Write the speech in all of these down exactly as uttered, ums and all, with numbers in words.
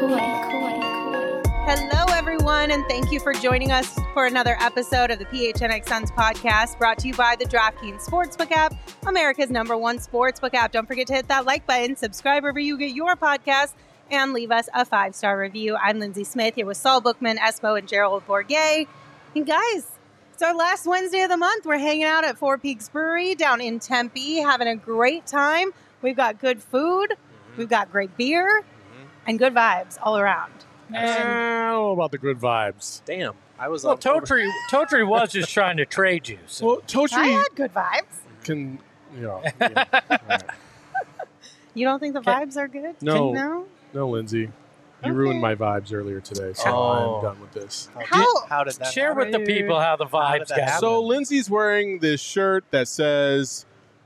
Hello, everyone, and thank you for joining us for another episode of the P H N X Suns podcast, brought to you by the DraftKings Sportsbook app, America's number one sportsbook app. Don't forget to hit that like button, subscribe wherever you get your podcast, and leave us a five-star review. I'm Lindsay Smith here with Saul Bookman, Espo, and Gerald Bourguet. And guys, it's our last Wednesday of the month. We're hanging out at Four Peaks Brewery down in Tempe, having a great time. We've got good food, mm-hmm. we've got great beer, mm-hmm. and good vibes all around. And I don't know about the good vibes. Damn, I was. Well, on Totri, Totri was just trying to trade you. So. Well, Totri I had good vibes. Can you know? Yeah, right. You don't think the Can, vibes are good? No, no, no, Lindsay. You okay. ruined my vibes earlier today, so Oh. I'm done with this. How? How did that? Share happen? with the people how the How did vibes that got. happen? So Lindsay's wearing this shirt that says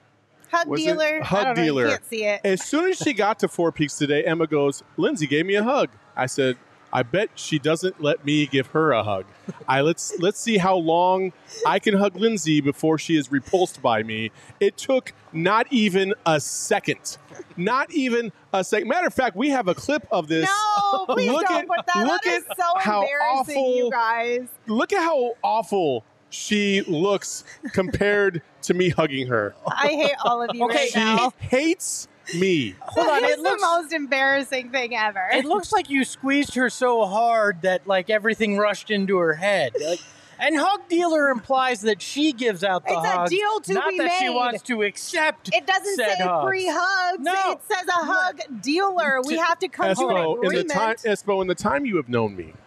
Hug Was it dealer. Hug I don't know, dealer. you can't see it. As soon as she got to Four Peaks today, Emma goes, Lindsay gave me a hug. I said, I bet she doesn't let me give her a hug. I let's let's see how long I can hug Lindsay before she is repulsed by me. It took not even a second. Not even a second. Matter of fact, we have a clip of this. No, please Look don't at- put that. look That is at so how embarrassing, awful- you guys. Look at how awful she looks compared to me hugging her. I hate all of you Okay, right She now. hates me. Hold on, It's it looks the most embarrassing thing ever. it looks like you squeezed her so hard that like everything rushed into her head. Like, and hug dealer implies that she gives out the It's a hugs, deal to not be that she made. wants to accept. It doesn't said say hugs. free hugs. No. It says a hug dealer. We have to come to an Espo, in the agreement. time, Espo, in the time you have known me,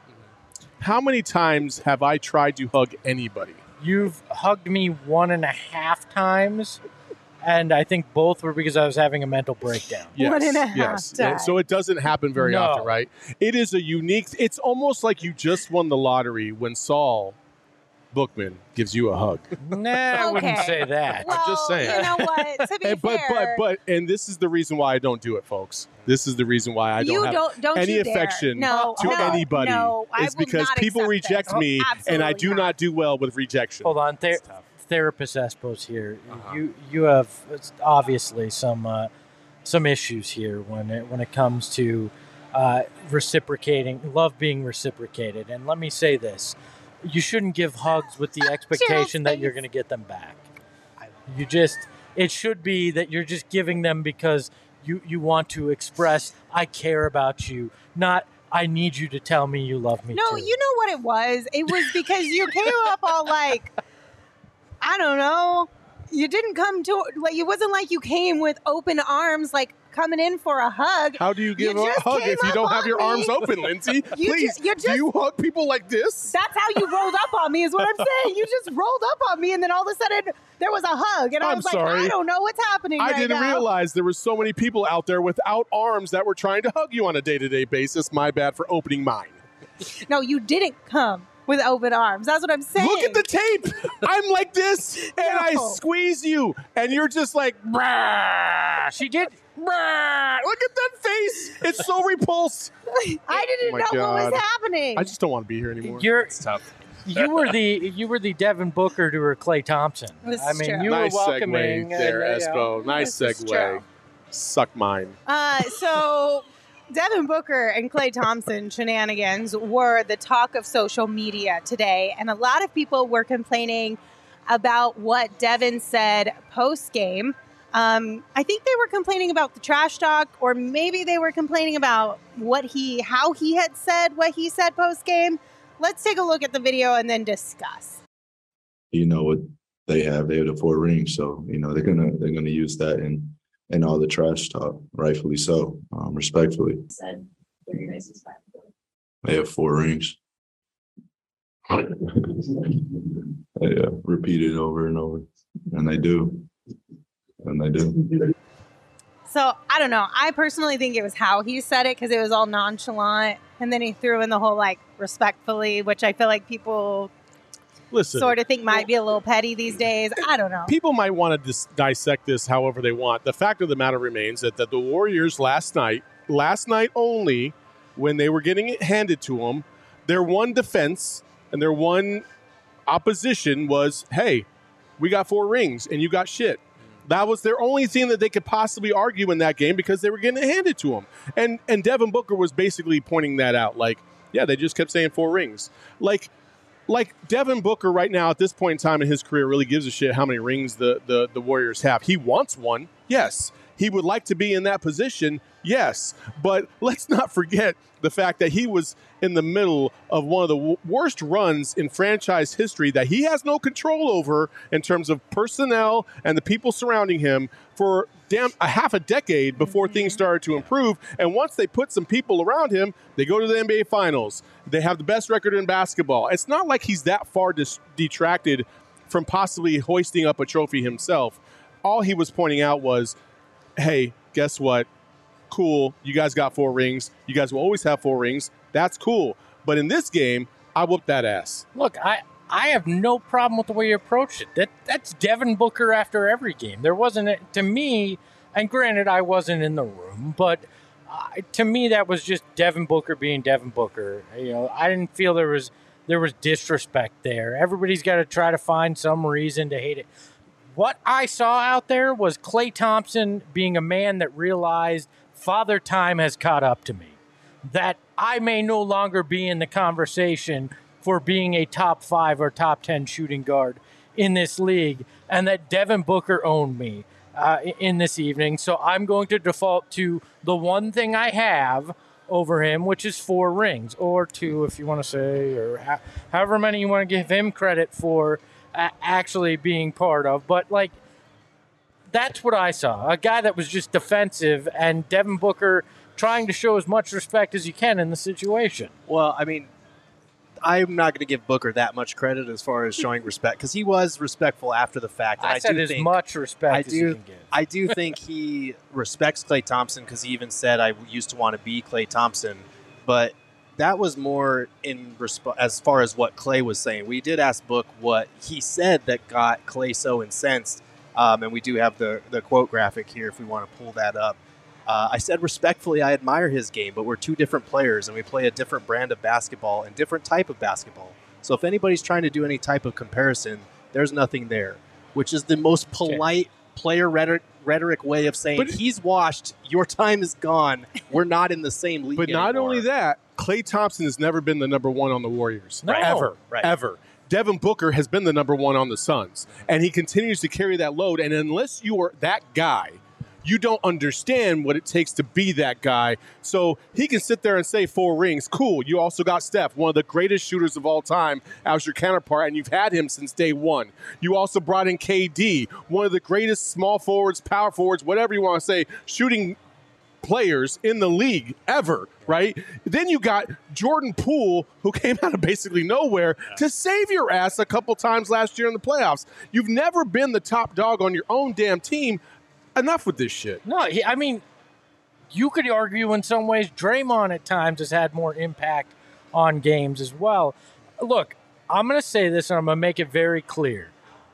how many times have I tried to hug anybody? You've hugged me one and a half times, and I think both were because I was having a mental breakdown. Yes, One and a half yes. times. So it doesn't happen very No. often, right? It is a unique. It's almost like you just won the lottery when Saul Bookman gives you a hug. Nah, I wouldn't Okay. say that. Well, just saying. You know what? To be And- but fair, but but and this is the reason why I don't do it, folks. This is the reason why I don't you have don't, don't any you dare. affection no, to no, anybody. No, I it's will because not people accept reject this. me, and I Absolutely do not do well with rejection. Hold on, Ther- therapist Espo's here. You you have obviously some uh, some issues here when it when it comes to uh, reciprocating, love being reciprocated. And let me say this: you shouldn't give hugs with the expectation that you're face. going to get them back. You just it should be that you're just giving them because you you want to express I care about you, not I need you to tell me you love me. No, too. you know what it was? It was because you came up all like, I don't know. You didn't come to, like, it wasn't like you came with open arms, like coming in for a hug. How do you give You a just hug came if you up don't have on your me. arms open, Lindsay? You Please, ju- you do just- you hug people like this? That's how you rolled up on me, is what I'm saying. You just rolled up on me, and then all of a sudden there was a hug, and I I'm was like, sorry. I don't know what's happening I right didn't now. realize there were so many people out there without arms that were trying to hug you on a day-to-day basis. My bad for opening mine. No, you didn't come with open arms. That's what I'm saying. Look at the tape. I'm like this, and I No. squeeze you, and you're just like, brah, She did. brah. Look at that face. It's so repulsed. I didn't Oh my know what God. was happening. I just don't want to be here anymore. You're It's tough. you were the you were the Devin Booker to her Clay Thompson. This I is mean, true. you nice were welcoming segue there, and, uh, Espo. Nice This is segue. true. Suck mine. Uh, so Devin Booker and Klay Thompson shenanigans were the talk of social media today, and a lot of people were complaining about what Devin said post game. Um, I think they were complaining about the trash talk, or maybe they were complaining about what he, how he had said what he said post game. Let's take a look at the video and then discuss. You know what they have? They have the four rings, so you know they're gonna they're gonna use that in in all the trash talk, rightfully so, um, respectfully. Said what are your guys' five? They have four rings. Yeah, repeat it over and over, and they do, and they do. So I don't know. I personally think it was how he said it, because it was all nonchalant, and then he threw in the whole like respectfully, which I feel like people Listen, sort of think might be a little petty these days. I don't know. people might want to dis- dissect this however they want. The fact of the matter remains that, that the Warriors last night, last night only, when they were getting it handed to them, their one defense and their one opposition was, hey, we got four rings and you got shit. That was their only thing that they could possibly argue in that game because they were getting it handed to them. And and Devin Booker was basically pointing that out. Like, yeah, they just kept saying four rings. Like, like Devin Booker right now at this point in time in his career really gives a shit how many rings the, the, the Warriors have. He wants one, yes. He would like to be in that position, yes. But let's not forget the fact that he was in the middle of one of the w- worst runs in franchise history that he has no control over in terms of personnel and the people surrounding him for damn a half a decade before mm-hmm. things started to improve. And once they put some people around him, they go to the N B A Finals. They have the best record in basketball. It's not like he's that far dis- detracted from possibly hoisting up a trophy himself. All he was pointing out was, hey, guess what? Cool. You guys got four rings. You guys will always have four rings. That's cool. But in this game, I whooped that ass. Look, I, I have no problem with the way you approached it. That That's Devin Booker after every game. There wasn't, a, to me, and granted, I wasn't in the room, but uh, to me, that was just Devin Booker being Devin Booker. You know, I didn't feel there was there was disrespect there. Everybody's got to try to find some reason to hate it. What I saw out there was Klay Thompson being a man that realized Father Time has caught up to me, that I may no longer be in the conversation for being a top five or top ten shooting guard in this league, and that Devin Booker owned me uh, in this evening. So I'm going to default to the one thing I have over him, which is four rings, or two if you want to say, or ha- however many you want to give him credit for uh, actually being part of. But, like, that's what I saw. A guy that was just defensive, and Devin Booker trying to show as much respect as you can in the situation. Well, I mean, I'm not going to give Booker that much credit as far as showing respect, because he was respectful after the fact. And I, I said do as think, much respect I as do, you can give. I do think he respects Klay Thompson, because he even said, I used to want to be Klay Thompson. But that was more in resp- as far as what Klay was saying. We did ask Book what he said that got Klay so incensed. Um, and we do have the, the quote graphic here if we want to pull that up. Uh, I said, respectfully, I admire his game, but we're two different players, and we play a different brand of basketball and different type of basketball. So if anybody's trying to do any type of comparison, there's nothing there, which is the most polite okay. player rhetoric, rhetoric way of saying, but he's washed, your time is gone, we're not in the same league But anymore. Not only that, Klay Thompson has never been the number one on the Warriors. No. Ever. Right. Ever. Devin Booker has been the number one on the Suns, and he continues to carry that load. And unless you are that guy, you don't understand what it takes to be that guy. So he can sit there and say four rings. Cool. You also got Steph, one of the greatest shooters of all time, as your counterpart, and you've had him since day one. You also brought in K D, one of the greatest small forwards, power forwards, whatever you want to say, shooting players in the league ever, right? Then you got Jordan Poole, who came out of basically nowhere yeah. to save your ass a couple times last year in the playoffs. You've never been the top dog on your own damn team. Enough with this shit. No, he, I mean, you could argue in some ways Draymond at times has had more impact on games as well. Look, I'm going to say this, and I'm going to make it very clear.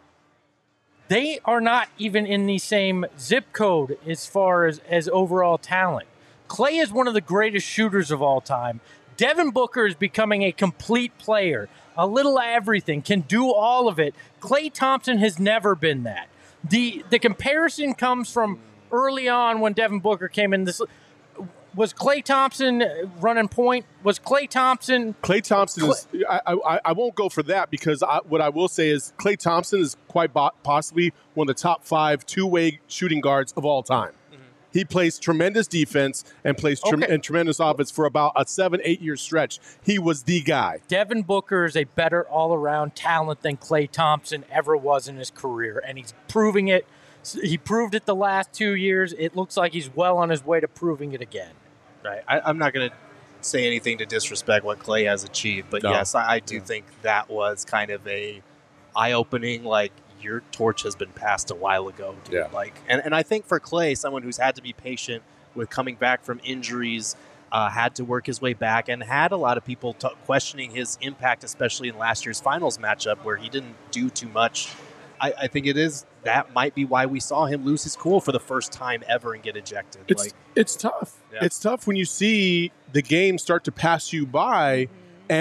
They are not even in the same zip code as far as, as overall talent. Klay is one of the greatest shooters of all time. Devin Booker is becoming a complete player, a little everything, can do all of it. Klay Thompson has never been that. The the comparison comes from early on when Devin Booker came in. This was Klay Thompson running point. Was Klay Thompson? Klay Thompson Klay, is. I, I I won't go for that because I, what I will say is Klay Thompson is quite bo- possibly one of the top five two-way shooting guards of all time. Mm-hmm. He plays tremendous defense and plays tre- okay. and tremendous offense for about a seven eight year stretch. He was the guy. Devin Booker is a better all around talent than Klay Thompson ever was in his career, and he's proving it. He proved it the last two years. It looks like he's well on his way to proving it again. Right. I, I'm not going to say anything to disrespect what Klay has achieved, but no. yes, I, I do yeah. think that was kind of a eye-opening, like, your torch has been passed a while ago, dude. Yeah. Like, and, and I think for Klay, someone who's had to be patient with coming back from injuries, uh, had to work his way back, and had a lot of people t- questioning his impact, especially in last year's finals matchup where he didn't do too much. I, I think it is that might be why we saw him lose his cool for the first time ever and get ejected. It's like, it's tough. Yeah. It's tough when you see the game start to pass you by, mm-hmm. and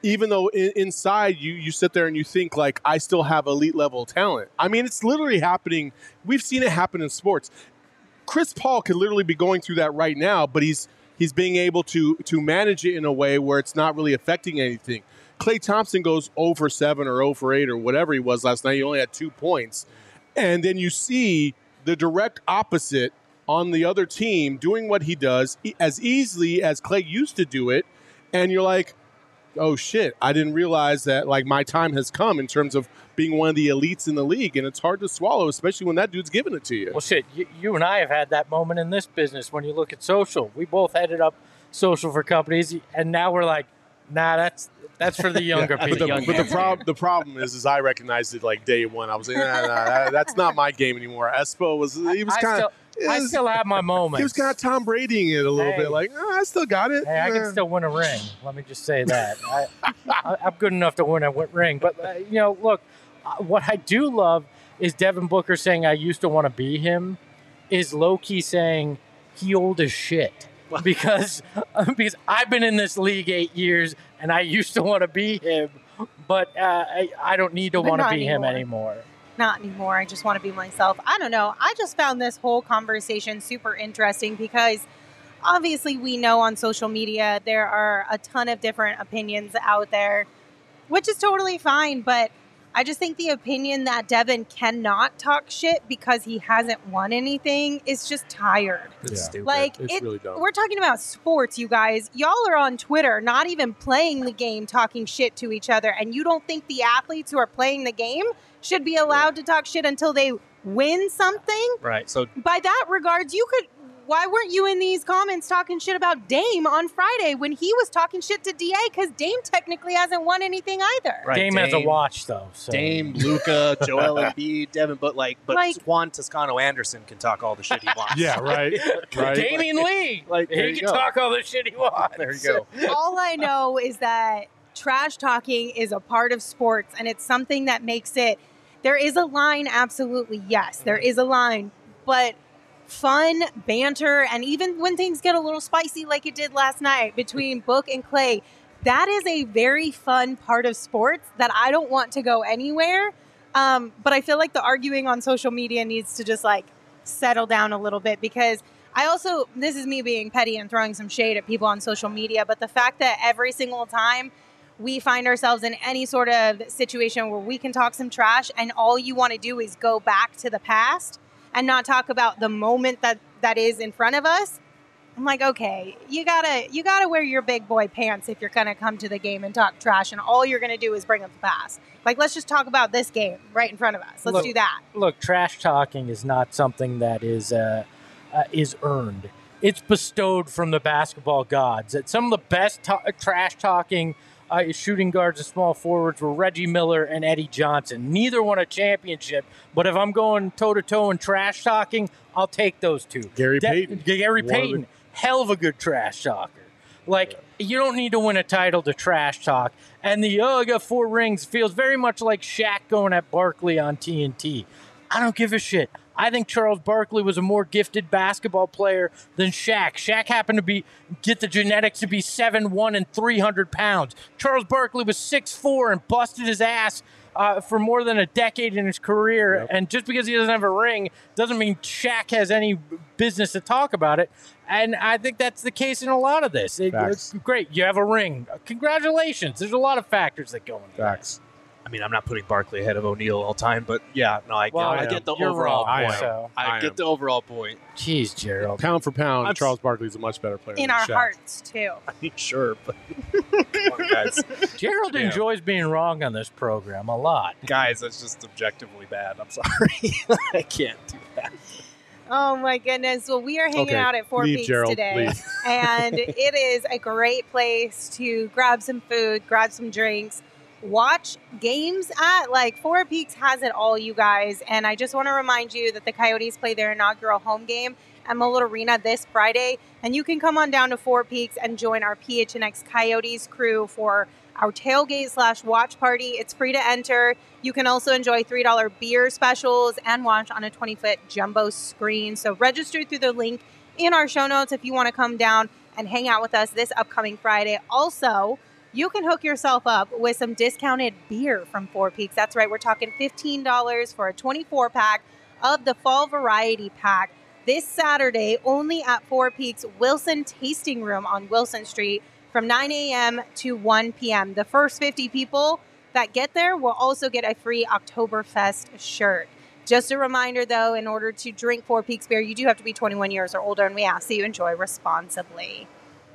even though in, inside you you sit there and you think like I still have elite level talent. I mean, it's literally happening. We've seen it happen in sports. Chris Paul could literally be going through that right now, but he's he's being able to to manage it in a way where it's not really affecting anything. Klay Thompson goes zero for seven or zero for eight or whatever he was last night. He only had two points. And then you see the direct opposite on the other team doing what he does as easily as Klay used to do it. And you're like, oh shit, I didn't realize that like my time has come in terms of being one of the elites in the league, and it's hard to swallow, especially when that dude's giving it to you. Well, shit, you, you and I have had that moment in this business when you look at social. We both headed up social for companies, and now we're like, nah, that's that's for the younger yeah, people. But the, but the, prob- the problem is, is I recognized it like day one. I was like, nah, nah, nah that's not my game anymore. Espo was, he was kind of. I still have my moments. He was kind of Tom Bradying it a little hey, bit, like, oh, I still got it. Hey, I can still win a ring. Let me just say that. I, I, I'm good enough to win a ring. But, uh, you know, look, uh, what I do love is Devin Booker saying I used to want to be him is low-key saying he old as shit. Because, uh, because I've been in this league eight years, and I used to want to be him, but uh, I, I don't need to want to be anymore. him anymore. Not anymore. I just want to be myself. I don't know. I just found this whole conversation super interesting because obviously we know on social media there are a ton of different opinions out there, which is totally fine. But I just think the opinion that Devin cannot talk shit because he hasn't won anything is just tired. It's yeah. stupid. Like, it's it, really dumb. We're talking about sports, you guys. Y'all are on Twitter, not even playing the game, talking shit to each other. And you don't think the athletes who are playing the game should be allowed to talk shit until they win something? Right. So by that regards, you could... Why weren't you in these comments talking shit about Dame on Friday when he was talking shit to D A? Because Dame technically hasn't won anything either. Right, Dame, Dame has a watch, though. So. Dame, Luka, Joel Embiid, Devin, but like, but like, Juan Toscano Anderson can talk all the shit he wants. Yeah, right. right. Damian Lee, like he can go. talk all the shit he wants. There you go. All I know is that trash talking is a part of sports, and it's something that makes it. There is a line, absolutely, yes, there is a line, but. Fun, banter, and even when things get a little spicy like it did last night between Book and Klay, that is a very fun part of sports that I don't want to go anywhere. Um, but I feel like the arguing on social media needs to just like settle down a little bit because I also, this is me being petty and throwing some shade at people on social media, but the fact that every single time we find ourselves in any sort of situation where we can talk some trash and all you want to do is go back to the past and not talk about the moment that, that is in front of us. I'm like, okay, you gotta you gotta wear your big boy pants if you're gonna come to the game and talk trash, and all you're gonna do is bring up the past. Like, let's just talk about this game right in front of us. Let's look, do that. Look, trash talking is not something that is uh, uh, is earned. It's bestowed from the basketball gods. It's some of the best to- trash talking Uh, shooting guards and small forwards were Reggie Miller and Eddie Johnson. Neither won a championship, but if I'm going toe-to-toe and trash talking, I'll take those two. Gary De- Payton. Gary One Payton, the- hell of a good trash talker. Like, you don't need to win a title to trash talk. And the, oh, I got four rings feels very much like Shaq going at Barkley on T N T. I don't give a shit. I think Charles Barkley was a more gifted basketball player than Shaq. Shaq happened to be get the genetics to be seven one and three hundred pounds. Charles Barkley was six four and busted his ass uh, for more than a decade in his career. Yep. And just because he doesn't have a ring doesn't mean Shaq has any business to talk about it. And I think that's the case in a lot of this. It, it's great. You have a ring. Congratulations. There's a lot of factors that go into Facts. that. I mean, I'm not putting Barkley ahead of O'Neal all time, but yeah, no, I, well, I, I get the You're overall wrong, point. So. I, I get am. the overall point. Jeez, Gerald. Pound for pound, I'm Charles Barkley's a much better player In than our Shaq. hearts, too. I mean, sure, but come on, guys. Gerald Damn. enjoys being wrong on this program a lot. Guys, that's just objectively bad. I'm sorry. I can't do that. Oh, my goodness. Well, we are hanging Okay. out at Four Leave, Peaks Gerald. today. Leave. And it is a great place to grab some food, grab some drinks, watch games at. Like, Four Peaks has it all, you guys. And I just want to remind you that the Coyotes play their inaugural home game at Mullet Arena this Friday. And you can come on down to Four Peaks and join our P H N X Coyotes crew for our tailgate slash watch party. It's free to enter. You can also enjoy three dollars beer specials and watch on a twenty-foot jumbo screen. So register through the link in our show notes if you want to come down and hang out with us this upcoming Friday. Also, you can hook yourself up with some discounted beer from Four Peaks. That's right. We're talking fifteen dollars for a twenty-four pack of the Fall Variety Pack this Saturday only at Four Peaks Wilson Tasting Room on Wilson Street from nine a.m. to one p.m. The first fifty people that get there will also get a free Oktoberfest shirt. Just a reminder, though, in order to drink Four Peaks beer, you do have to be twenty-one years or older, and we ask that you enjoy responsibly.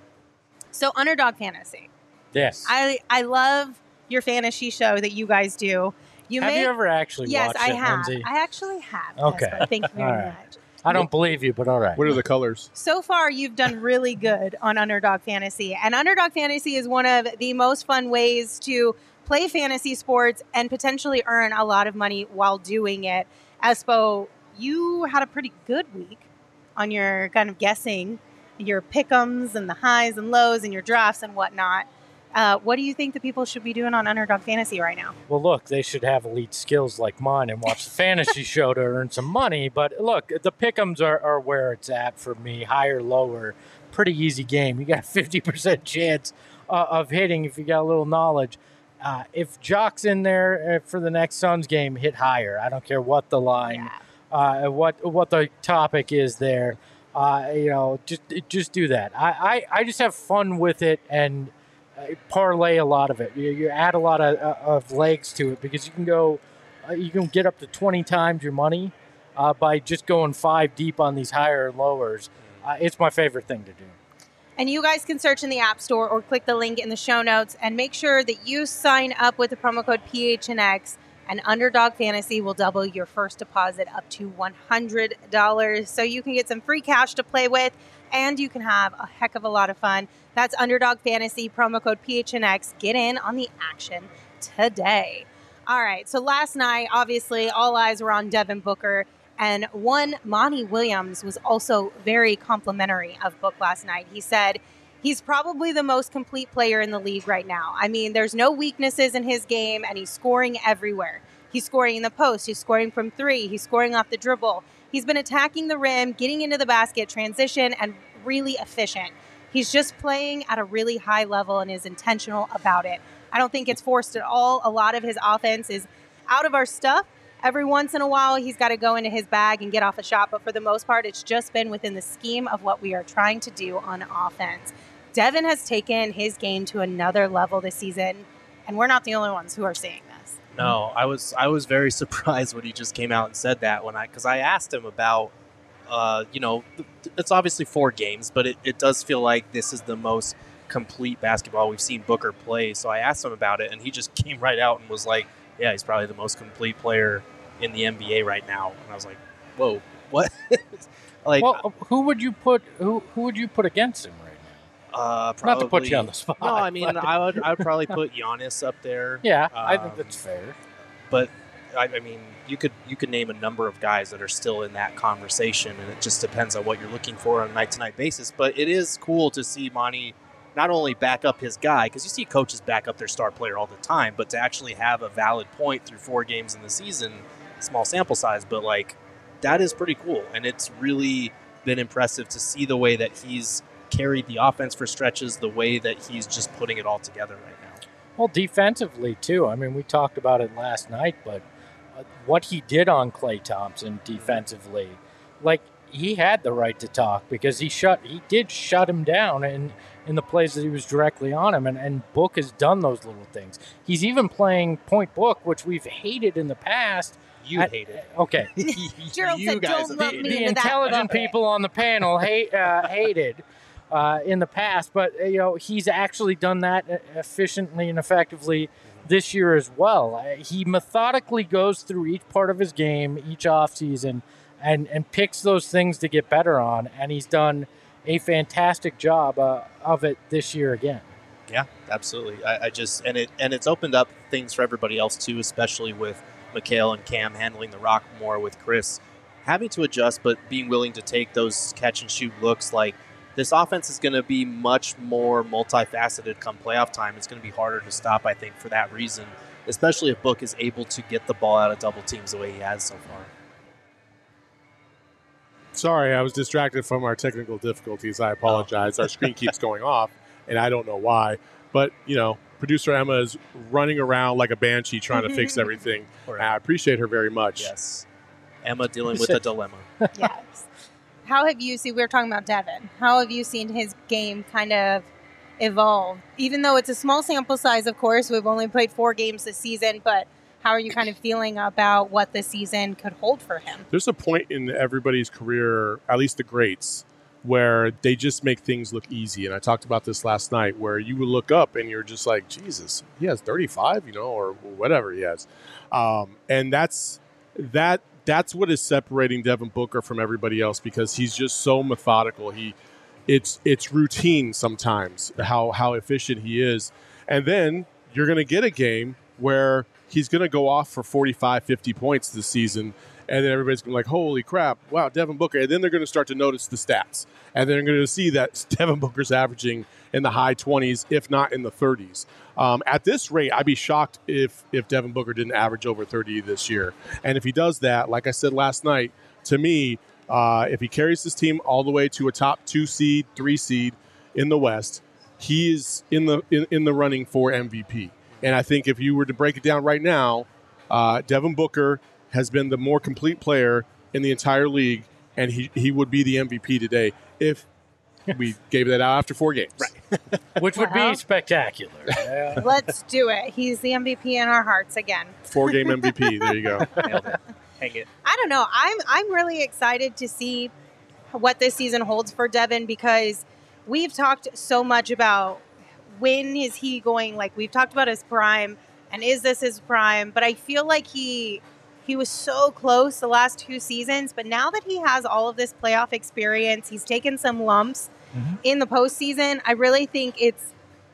So, Underdog Fantasy. Yes. I I love your fantasy show that you guys do. You have make, you ever actually yes, watched I it, have. Lindsay? I actually have. Okay. Yes, thank you very All right. much. I don't believe you, but all right. What are the colors? So far, you've done really good on Underdog Fantasy. And Underdog Fantasy is one of the most fun ways to play fantasy sports and potentially earn a lot of money while doing it. Espo, you had a pretty good week on your kind of guessing, your pick'ems and the highs and lows and your drafts and whatnot. Uh, what do you think the people should be doing on Underdog Fantasy right now? Well, look, they should have elite skills like mine and watch the fantasy show to earn some money. But look, the pick'ems are, are where it's at for me, higher, lower. Pretty easy game. You got a fifty percent chance uh, of hitting if you got a little knowledge. Uh, if Jock's in there uh, for the next Suns game, hit higher. I don't care what the line, yeah. uh, what what the topic is there. Uh, you know, just just do that. I, I, I just have fun with it and parlay a lot of it. You, you add a lot of, of legs to it because you can go, uh, you can get up to twenty times your money uh, by just going five deep on these higher and lowers. Uh, it's my favorite thing to do. And you guys can search in the App Store or click the link in the show notes and make sure that you sign up with the promo code P H N X, and Underdog Fantasy will double your first deposit up to one hundred dollars. So you can get some free cash to play with, and you can have a heck of a lot of fun. That's Underdog Fantasy, promo code P H N X. Get in on the action today. All right, so last night, obviously, all eyes were on Devin Booker, and one, Monty Williams, was also very complimentary of Book last night. He said he's probably the most complete player in the league right now. I mean, there's no weaknesses in his game, and he's scoring everywhere. He's scoring in the post. He's scoring from three. He's scoring off the dribble. He's been attacking the rim, getting into the basket, transition, and really efficient. He's just playing at a really high level and is intentional about it. I don't think it's forced at all. A lot of his offense is out of our stuff. Every once in a while, he's got to go into his bag and get off a shot. But for the most part, it's just been within the scheme of what we are trying to do on offense. Devin has taken his game to another level this season, and we're not the only ones who are seeing this. No, I was I was very surprised when he just came out and said that when I because I asked him about, uh, you know, it's obviously four games, but it, it does feel like this is the most complete basketball we've seen Booker play. So I asked him about it, and he just came right out and was like, yeah, he's probably the most complete player in the N B A right now. And I was like, whoa, what? like, well, who would you put who who would you put against him right now? Uh, probably, Not to put you on the spot. No, I mean, but. I would I would probably put Giannis up there. Yeah, um, I think that's fair. But I, I mean, you could you could name a number of guys that are still in that conversation, and it just depends on what you're looking for on a night to night basis. But it is cool to see Monty not only back up his guy, because you see coaches back up their star player all the time, but to actually have a valid point through four games in the season, small sample size, but like that is pretty cool. And it's really been impressive to see the way that he's carried the offense for stretches, the way that he's just putting it all together right now. Well, defensively too. I mean, we talked about it last night, but uh, what he did on Klay Thompson defensively, like he had the right to talk because he shut, he did shut him down in, in the plays that he was directly on him. And, and Book has done those little things. He's even playing point Book, which we've hated in the past. You At, hate it. Gerald Okay. you said, guys "Don't have lump hated me The into that intelligent bucket." people on the panel hate uh, hated uh, in the past, but uh, you know he's actually done that efficiently and effectively this year as well. Uh, he methodically goes through each part of his game, each offseason, and and picks those things to get better on, and he's done a fantastic job uh, of it this year again. Yeah, absolutely. I, I just and it and it's opened up things for everybody else too, especially with Mikal and Cam handling the rock more, with Chris having to adjust, but being willing to take those catch and shoot looks. Like this offense is going to be much more multifaceted come playoff time. It's going to be harder to stop, I think, for that reason, especially if Book is able to get the ball out of double teams the way he has so far. Sorry, I was distracted from our technical difficulties. I apologize. Our screen keeps going off, and I don't know why. But, you know, producer Emma is running around like a banshee trying to fix everything. And I appreciate her very much. Yes. Emma dealing with a dilemma. Yes. How have you seen, we were talking about Devin, how have you seen his game kind of evolve? Even though it's a small sample size, of course, we've only played four games this season, but how are you kind of feeling about what the season could hold for him? There's a point in everybody's career, at least the greats, where they just make things look easy. And I talked about this last night, where you would look up and you're just like, Jesus, he has thirty-five, you know, or whatever he has. Um, and that's that. That's what is separating Devin Booker from everybody else, because he's just so methodical. He, it's it's routine sometimes how how efficient he is, and then you're going to get a game where he's going to go off for forty-five, fifty points this season, and then everybody's going to be like, holy crap, wow, Devin Booker. And then they're going to start to notice the stats, and they're going to see that Devin Booker's averaging in the high twenties, if not in the thirties. Um, at this rate, I'd be shocked if if Devin Booker didn't average over thirty this year. And if he does that, like I said last night, to me, uh, if he carries this team all the way to a top two seed, three seed in the West, he is in the in, in the running for M V P. And I think if you were to break it down right now, uh, Devin Booker has been the more complete player in the entire league, and he, he would be the M V P today if we gave that out after four games. Right. Which would Well. be spectacular. Yeah. Let's do it. He's the M V P in our hearts again. Four-game M V P. There you go. Nailed it. Hang it. I don't know. I'm I'm really excited to see what this season holds for Devin, because we've talked so much about when is he going, like we've talked about his prime and is this his prime, but I feel like he he was so close the last two seasons, but now that he has all of this playoff experience, he's taken some lumps Mm-hmm. in the postseason. I really think it's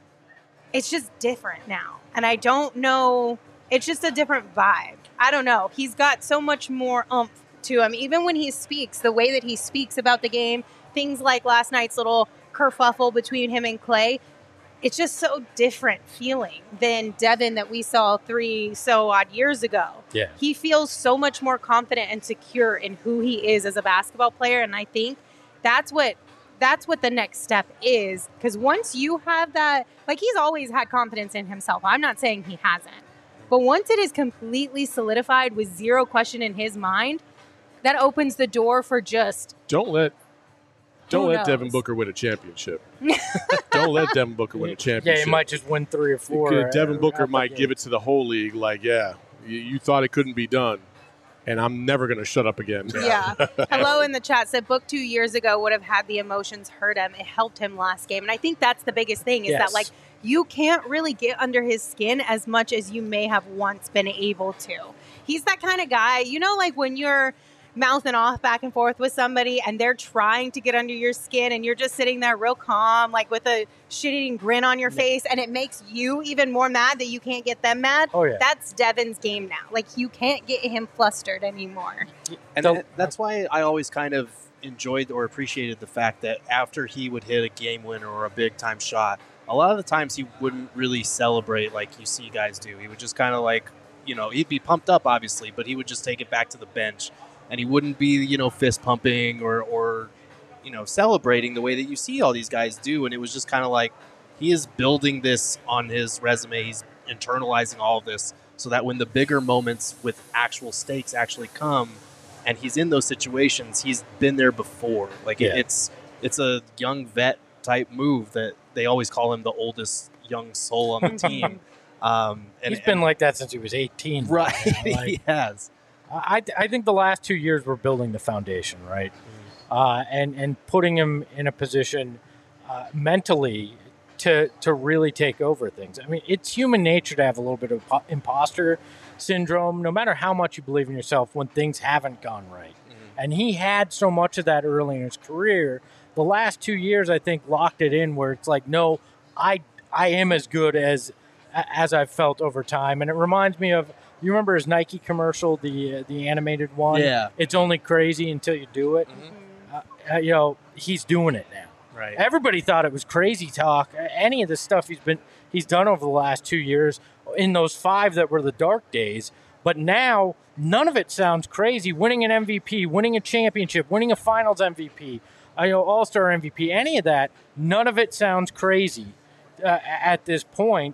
it's just different now. And I don't know, it's just a different vibe. I don't know. He's got so much more oomph to him. Even when he speaks, the way that he speaks about the game, things like last night's little kerfuffle between him and Clay, it's just so different feeling than Devin that we saw three so odd years ago. Yeah. He feels so much more confident and secure in who he is as a basketball player. And I think that's what that's what the next step is. Because once you have that, like he's always had confidence in himself. I'm not saying he hasn't. But once it is completely solidified with zero question in his mind, that opens the door for just Don't let don't Who let knows? Devin Booker win a championship. Don't let Devin Booker win a Yeah, championship. he might just win three or four. Because Devin uh, Booker out the might gate. give it to the whole league. Like, yeah, you, you thought it couldn't be done, and I'm never going to shut up again. Yeah. Hello in the chat said Book two years ago would have had the emotions hurt him. It helped him last game. And I think that's the biggest thing is Yes. that, like, you can't really get under his skin as much as you may have once been able to. He's that kind of guy, you know, like when you're mouthing off back and forth with somebody and they're trying to get under your skin and you're just sitting there real calm, like with a shit-eating grin on your face, and it makes you even more mad that you can't get them mad. Oh, yeah. That's Devin's game now. Like, you can't get him flustered anymore. And So- that- that's why I always kind of enjoyed or appreciated the fact that after he would hit a game winner or a big time shot, a lot of the times he wouldn't really celebrate like you see guys do. He would just kind of like, you know, he'd be pumped up obviously, but he would just take it back to the bench and he wouldn't be, you know, fist pumping or, or you know, celebrating the way that you see all these guys do. And it was just kind of like he is building this on his resume. He's internalizing all of this so that when the bigger moments with actual stakes actually come, and he's in those situations, he's been there before. Like Yeah. it's it's a young vet type move that they always call him the oldest young soul on the team. Um, and He's been like that since he was eighteen. right. Like, he has. I, I think the last two years we're building the foundation, right? Uh, and and putting him in a position uh, mentally to to really take over things. I mean, it's human nature to have a little bit of po- imposter syndrome, no matter how much you believe in yourself when things haven't gone right. And he had so much of that early in his career. The last two years, I think, locked it in where it's like, no, I I am as good as as I've felt over time. And it reminds me of, you remember his Nike commercial, the uh, the animated one? Yeah. It's only crazy until you do it. Uh, uh, you know, he's doing it now. Right. Everybody thought it was crazy talk. Any of the stuff he's been he's done over the last two years in those five that were the dark days. But now none of it sounds crazy. Winning an M V P, winning a championship, winning a Finals M V P, I know All-Star M V P, any of that, none of it sounds crazy uh, at this point.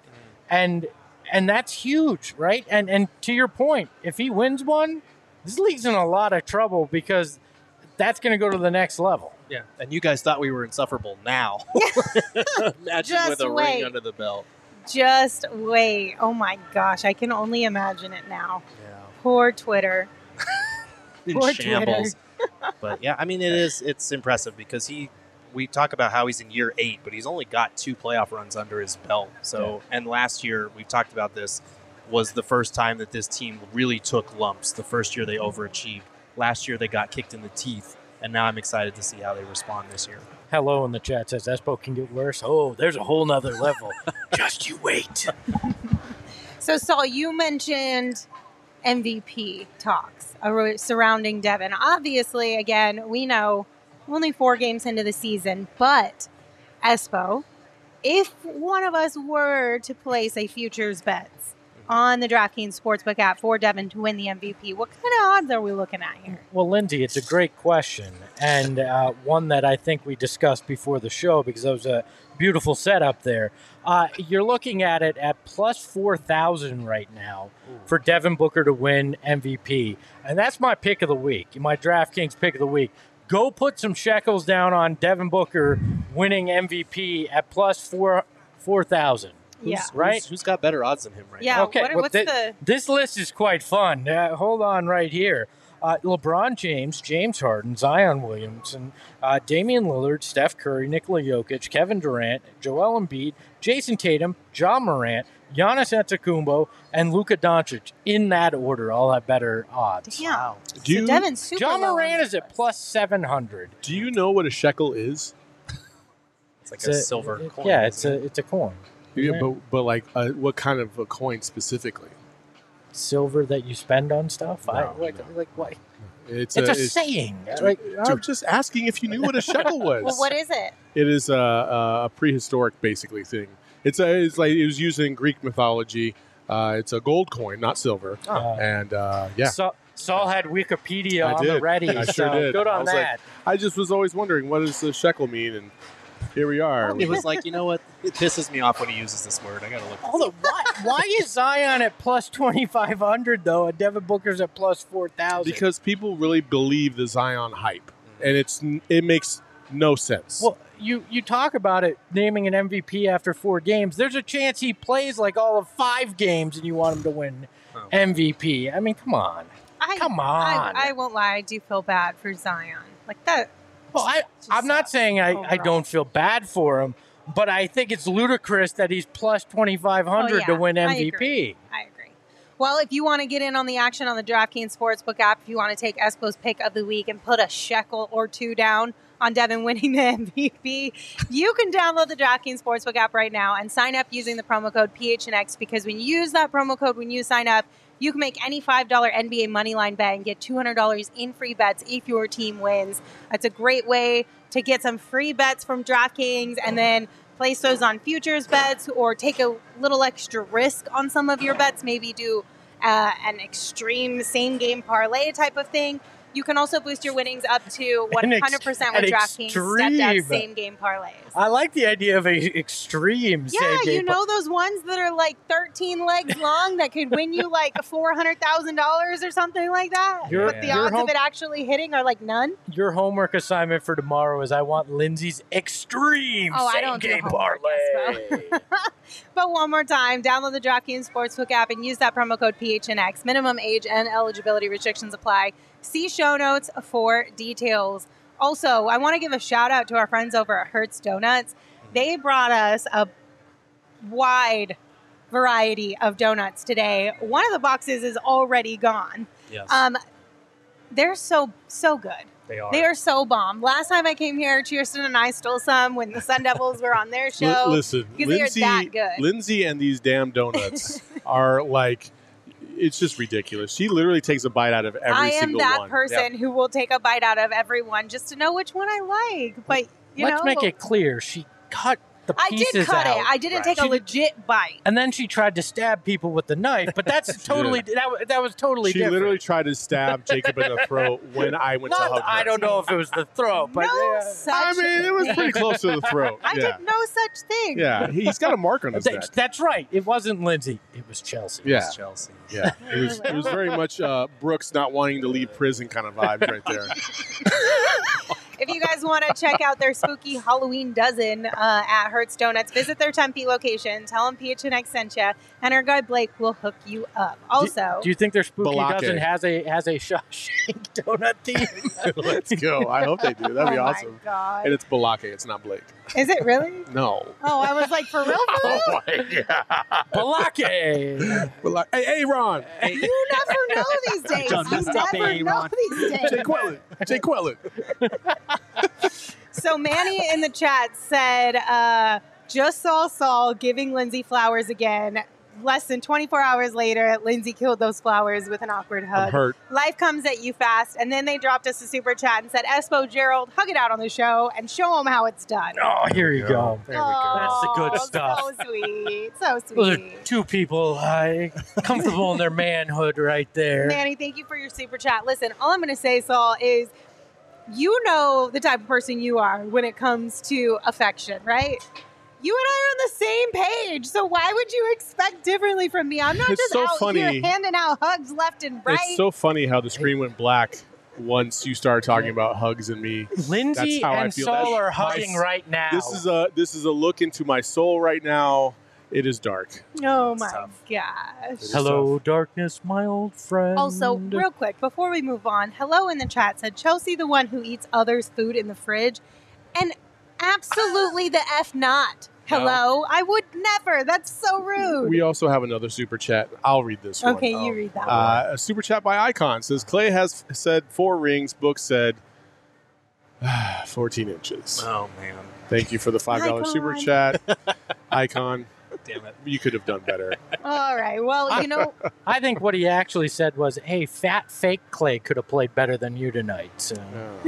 and and that's huge, right? And and to your point, if he wins one, this league's in a lot of trouble because that's going to go to the next level. Yeah, and you guys thought we were insufferable now. Imagine Just with a wait. ring under the belt. Just wait. Oh my gosh, I can only imagine it now. Yeah. Poor Twitter. In Poor shambles. But yeah, I mean, it is. It's impressive because he. We talk about how he's in year eight, but he's only got two playoff runs under his belt. So, and last year we've talked about this was the first time that this team really took lumps. The first year they overachieved. Last year they got kicked in the teeth, and now I'm excited to see how they respond this year. Hello in the chat says Espo can get worse. Oh, there's a whole nother level. Just you wait. So, Saul, you mentioned M V P talks ar- surrounding Devin. Obviously, again, we know only four games into the season, but Espo, if one of us were to place a futures bets on the DraftKings Sportsbook app for Devin to win the M V P, what kind of odds are we looking at here? Well, Lindsay, it's a great question, and uh, one that I think we discussed before the show because that was a beautiful setup there. Uh, you're looking at it at plus four thousand right now for Devin Booker to win M V P, and that's my pick of the week, my DraftKings pick of the week. Go put some shekels down on Devin Booker winning M V P at plus four four thousand. Yeah. Right? Who's, who's got better odds than him right Yeah. now? Okay, what- well, what's thi- the- this list is quite fun. Uh, hold on right here. Uh, LeBron James, James Harden, Zion Williamson, uh, Damian Lillard, Steph Curry, Nikola Jokic, Kevin Durant, Joel Embiid, Jason Tatum, John Morant, Giannis Antetokounmpo, and Luka Doncic. In that order, all have better odds. Yeah. Wow. Do you, so Devin's super John low on Morant this is at list. plus seven hundred. do you know what a shekel is? It's like It's a, a- silver it- coin. Yeah, it's a isn't it? it's a coin. Yeah, Yeah. but but like uh, what kind of a coin specifically? Silver that you spend on stuff. I, No, like, no. like what? It's, It's a it's- saying. Like, I'm just asking if you knew what a shekel was. Well, what is it? It is a, a, a prehistoric, basically thing. It's a, it's like it was used in Greek mythology. Uh, it's a gold coin, not silver. uh, And uh, yeah, Saul, Saul had Wikipedia I on the did. ready. I sure so did. Good I on was like, that. I just was always wondering what does the shekel mean, and here we are. It was like, you know what? It pisses me off when he uses this word. I gotta look. Hold on, why, why is Zion at plus twenty-five hundred, though, and Devin Booker's at plus four thousand? Because people really believe the Zion hype, and it's it makes no sense. Well, you, you talk about it naming an M V P after four games. There's a chance he plays like all of five games and you want him to win Oh. M V P. I mean, come on. I, Come I, on. I won't lie. I do feel bad for Zion. Like that. Well, I, Just I'm not sucks saying I, I overall. don't feel bad for him, but I think it's ludicrous that he's plus twenty-five hundred Oh, yeah. to win I M V P. agree. I agree. Well, if you want to get in on the action on the DraftKings Sportsbook app, if you want to take Espo's pick of the week and put a shekel or two down on Devin winning the M V P, you can download the DraftKings Sportsbook app right now and sign up using the promo code P H N X, because when you use that promo code when you sign up, you can make any five dollar N B A Moneyline bet and get two hundred dollars in free bets if your team wins. That's a great way to get some free bets from DraftKings and then place those on futures bets or take a little extra risk on some of your bets. Maybe do uh, an extreme same game parlay type of thing. You can also boost your winnings up to one hundred percent An with ex- DraftKings an stepped up extreme. same game parlays. I like the idea of a extreme Yeah, same game. you know those ones that are like thirteen legs long that could win you like four hundred thousand dollars or something like that? Your- But the your odds home- of it actually hitting are like none. Your homework assignment for tomorrow is I want Lindsay's extreme Oh, I same don't do game homework, parlay. But one more time, download the DraftKings Sportsbook app and use that promo code P H N X. Minimum age and eligibility restrictions apply. See show notes for details. Also, I want to give a shout out to our friends over at Hertz Donuts. They brought us a wide variety of donuts today. One of the boxes is already gone. Yes, Um, they're so, so good. they are. They are so bomb. Last time I came here, Cheerston and I stole some when the Sun Devils were on their L- show. listen, because they are Lindsay, that good. Lindsay and these damn donuts are like, it's just ridiculous. She literally takes a bite out of every I am single that one. person who will take a bite out of every one just to know which one I like. But you Let's know, make it clear. She cut the I pieces did cut out. it. I didn't Right. take a She- legit bite. And then she tried to stab people with the knife, but that's totally that, wa- that was totally She different. literally tried to stab Jacob in the throat when I went to Not, hug her. I don't know if it was the throat, but no yeah. such I mean, it was thing. pretty close to the throat. I yeah. did no such thing. Yeah, he's got a mark on his That's, neck. that's right. It wasn't Lindsay. It was Chelsea. Yeah, Chelsea. yeah. It was, it was very much uh, Brooks not wanting to leave prison kind of vibes right there. If you guys want to check out their spooky Halloween dozen uh, at Hertz Donuts, visit their Tempe location. Tell them P H N X sent you, and our guy Blake will hook you up. Also, Do you think their spooky Balake. dozen has a has a Shawshank donut theme? Let's go. I hope they do. That'd be oh awesome. my god, And it's Balake. It's not Blake. is it really? No. Oh, I was like, for real, for real? Oh my god. Balake. Balake. Hey, hey, Ron. You never know these days. Done You messed up, never eh, know Ron? these days. Jay Quellen. Jay Quellen. So Manny in the chat said, uh, just saw Saul giving Lindsay flowers again. Less than twenty-four hours later, Lindsay killed those flowers with an awkward hug. I'm hurt. Life comes at you fast. And then they dropped us a super chat and said, Espo, Gerald, hug it out on the show and show them how it's done. Oh, here you go. There we go. That's the good Oh, stuff. So sweet. So Those sweet. are two people uh, comfortable in their manhood right there. Manny, thank you for your super chat. Listen, all I'm going to say, Saul, is you know the type of person you are when it comes to affection, right? You and I are on the same page, so why would you expect differently from me? I'm not It's just so out funny. here handing out hugs left and right. It's so funny how the screen went black once you started talking about hugs and me. Lindsay That's how I and feel. Saul That's are my- hugging right now. This is a this is a look into my soul right now. It is dark. oh It's my tough. gosh. is Hello, darkness, my old friend. Also, real quick, before we move on, hello in the chat said Chelsea the one who eats others' food in the fridge. And absolutely the F not. Hello? I would never. That's so rude. We also have another super chat. I'll read this one. okay, Oh, you read that one. Uh, a super chat by Icon says Clay has said four rings. Book said fourteen inches. Oh man, Thank you for the five dollar Icon. super chat, Icon. damn it. You could have done better. All right. Well, you know, I think what he actually said was, hey, fat fake Clay could have played better than you tonight. So. Uh,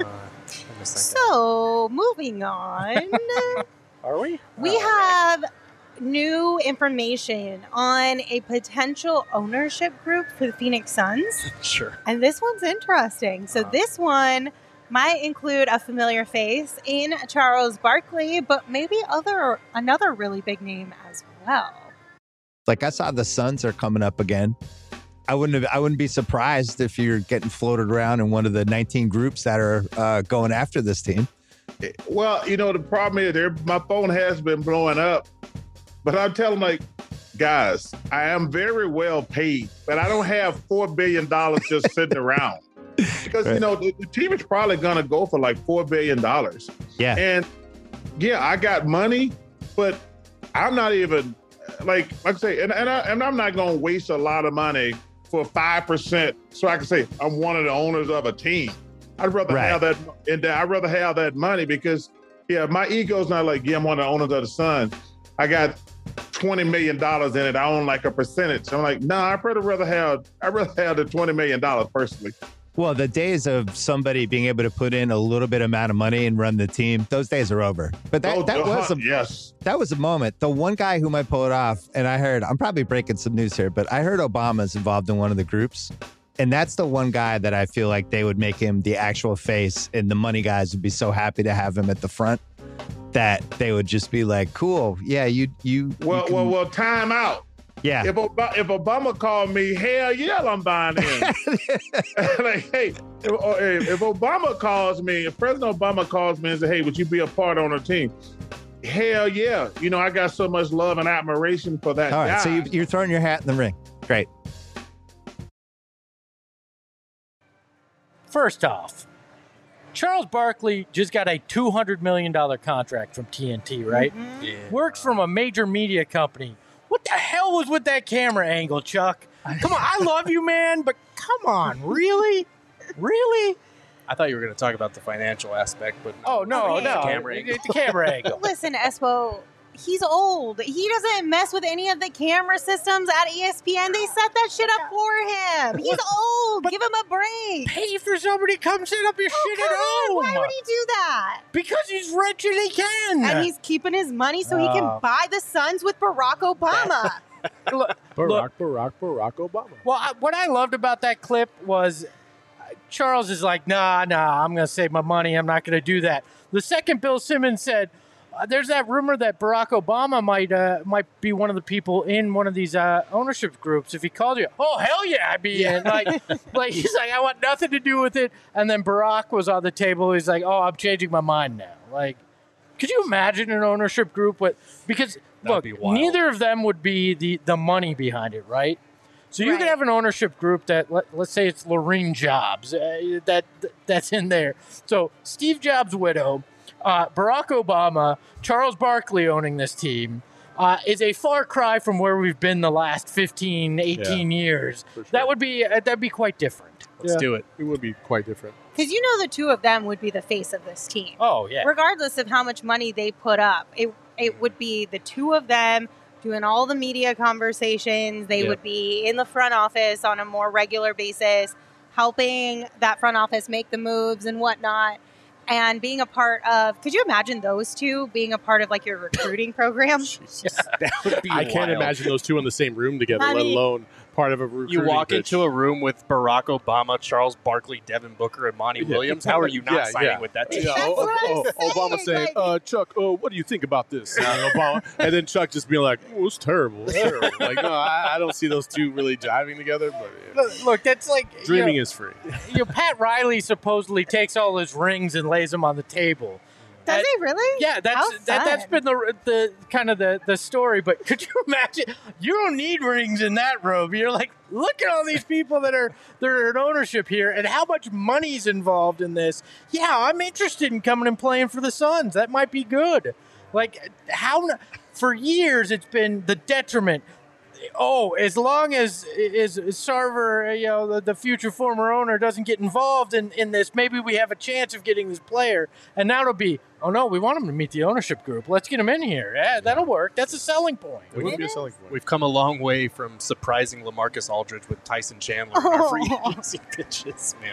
I missed that guy. so moving on. Are we? We Oh, have new information on a potential ownership group for the Phoenix Suns. Sure. And this one's interesting. So Wow. this one might include a familiar face in Charles Barkley, but maybe other another really big name as well. Like I saw the Suns are coming up again. I wouldn't have, I wouldn't be surprised if you're getting floated around in one of the nineteen groups that are uh, going after this team. Well, you know, the problem is there, my phone has been blowing up, but I'm telling like, guys, I am very well paid, but I don't have four billion dollars just sitting around because, you Right. know, the, the team is probably going to go for like four billion dollars. Yeah. And yeah, I got money, but I'm not even like, like I say, and, and, I, and I'm not going to waste a lot of money for five percent so I can say I'm one of the owners of a team. I'd rather Right. have that, and I'd rather have that money because, yeah, my ego's not like, yeah, I'm one of the owners of the Sun. I got twenty million dollars in it. I own like a percentage. I'm like, no, nah, I'd rather rather have, I'd rather have the twenty million dollars personally. Well, the days of somebody being able to put in a little bit amount of money and run the team, those days are over. But that, Oh, that was a yes. that was a moment. The one guy who might pull it off, and I heard, I'm probably breaking some news here, but I heard Obama's involved in one of the groups. And that's the one guy that I feel like they would make him the actual face, and the money guys would be so happy to have him at the front that they would just be like, cool, yeah, you, you. Well, you can- well, well, time out. yeah. If, Ob- if Obama called me, hell yeah, I'm buying in. Like, hey, if, or if if Obama calls me, if President Obama calls me and says, hey, would you be a part on a team? Hell yeah. You know, I got so much love and admiration for that All right, guy. so you, you're throwing your hat in the ring. Great. First off, Charles Barkley just got a two hundred million dollars contract from T N T, right? Yeah. Works from a major media company. What the hell was with that camera angle, Chuck? Come on, I love you, man, but come on, really? Really? I thought you were going to talk about the financial aspect, but Oh, no, Okay. no. The camera angle. The camera angle. Listen, Espo, he's old. He doesn't mess with any of the camera systems at E S P N. They set that shit up for him. He's old. Give him a break. Pay for somebody to come set up your Oh, shit at come on. home. Why would he do that? Because he's rich and he can. And he's keeping his money so he Oh. can buy the Suns with Barack Obama. Look, Barack, look, Barack, Barack Obama. well, I, what I loved about that clip was uh, Charles is like, nah, nah, I'm going to save my money. I'm not going to do that. The second Bill Simmons said, uh, there's that rumor that Barack Obama might uh, might be one of the people in one of these uh, ownership groups. If he called you, oh, hell yeah, I'd be in. Like, like, he's like, I want nothing to do with it. And then Barack was on the table. He's like, oh, I'm changing my mind now. Like, could you imagine an ownership group with, because look, be wild. neither of them would be the, the money behind it, right? So you Right. could have an ownership group that, let, let's say it's Lorene Jobs, uh, that that's in there. So Steve Jobs' widow, uh, Barack Obama, Charles Barkley owning this team uh, is a far cry from where we've been the last fifteen, eighteen years. For sure. That would be uh, that'd be quite different. Let's do it. It would be quite different. Because you know the two of them would be the face of this team. Oh yeah. Regardless of how much money they put up, it it would be the two of them doing all the media conversations. They Yep. would be in the front office on a more regular basis, helping that front office make the moves and whatnot. And being a part of, could you imagine those two being a part of like your recruiting program? That would be I can't wild. imagine those two in the same room together, I let mean- alone part of a recruiting You walk pitch. into a room with Barack Obama, Charles Barkley, Devin Booker, and Monty Yeah. Williams. How are you not Yeah, signing yeah. with that team? Yeah, That's oh, what I'm oh, oh, Obama saying, saying, like- uh, Chuck, oh, what do you think about this? And Obama, and then Chuck just being like, oh, it's terrible. It's terrible. Like, no, I, I don't see those two really jiving together, but yeah. Look, look, that's like you Dreaming know, is free. you know, Pat Riley supposedly takes all his rings and lays them on the table. Does And- he really? Yeah, that's How that, that's fun. been the the kind of the, the story. But could you imagine? You don't need rings in that room. You're like, look at all these people that are that are in ownership here, and how much money's involved in this. Yeah, I'm interested in coming and playing for the Suns. That might be good. Like how for years it's been the detriment. Oh, as long as is Sarver, you know, the, the future former owner doesn't get involved in, in this, maybe we have a chance of getting this player. And now it'll be, oh no, we want him to meet the ownership group. Let's get him in here. Yeah, that'll work. That's a selling point. It would be a selling point. We've come a long way from surprising LaMarcus Aldridge with Tyson Chandler in our free Oh. agency pitches, man.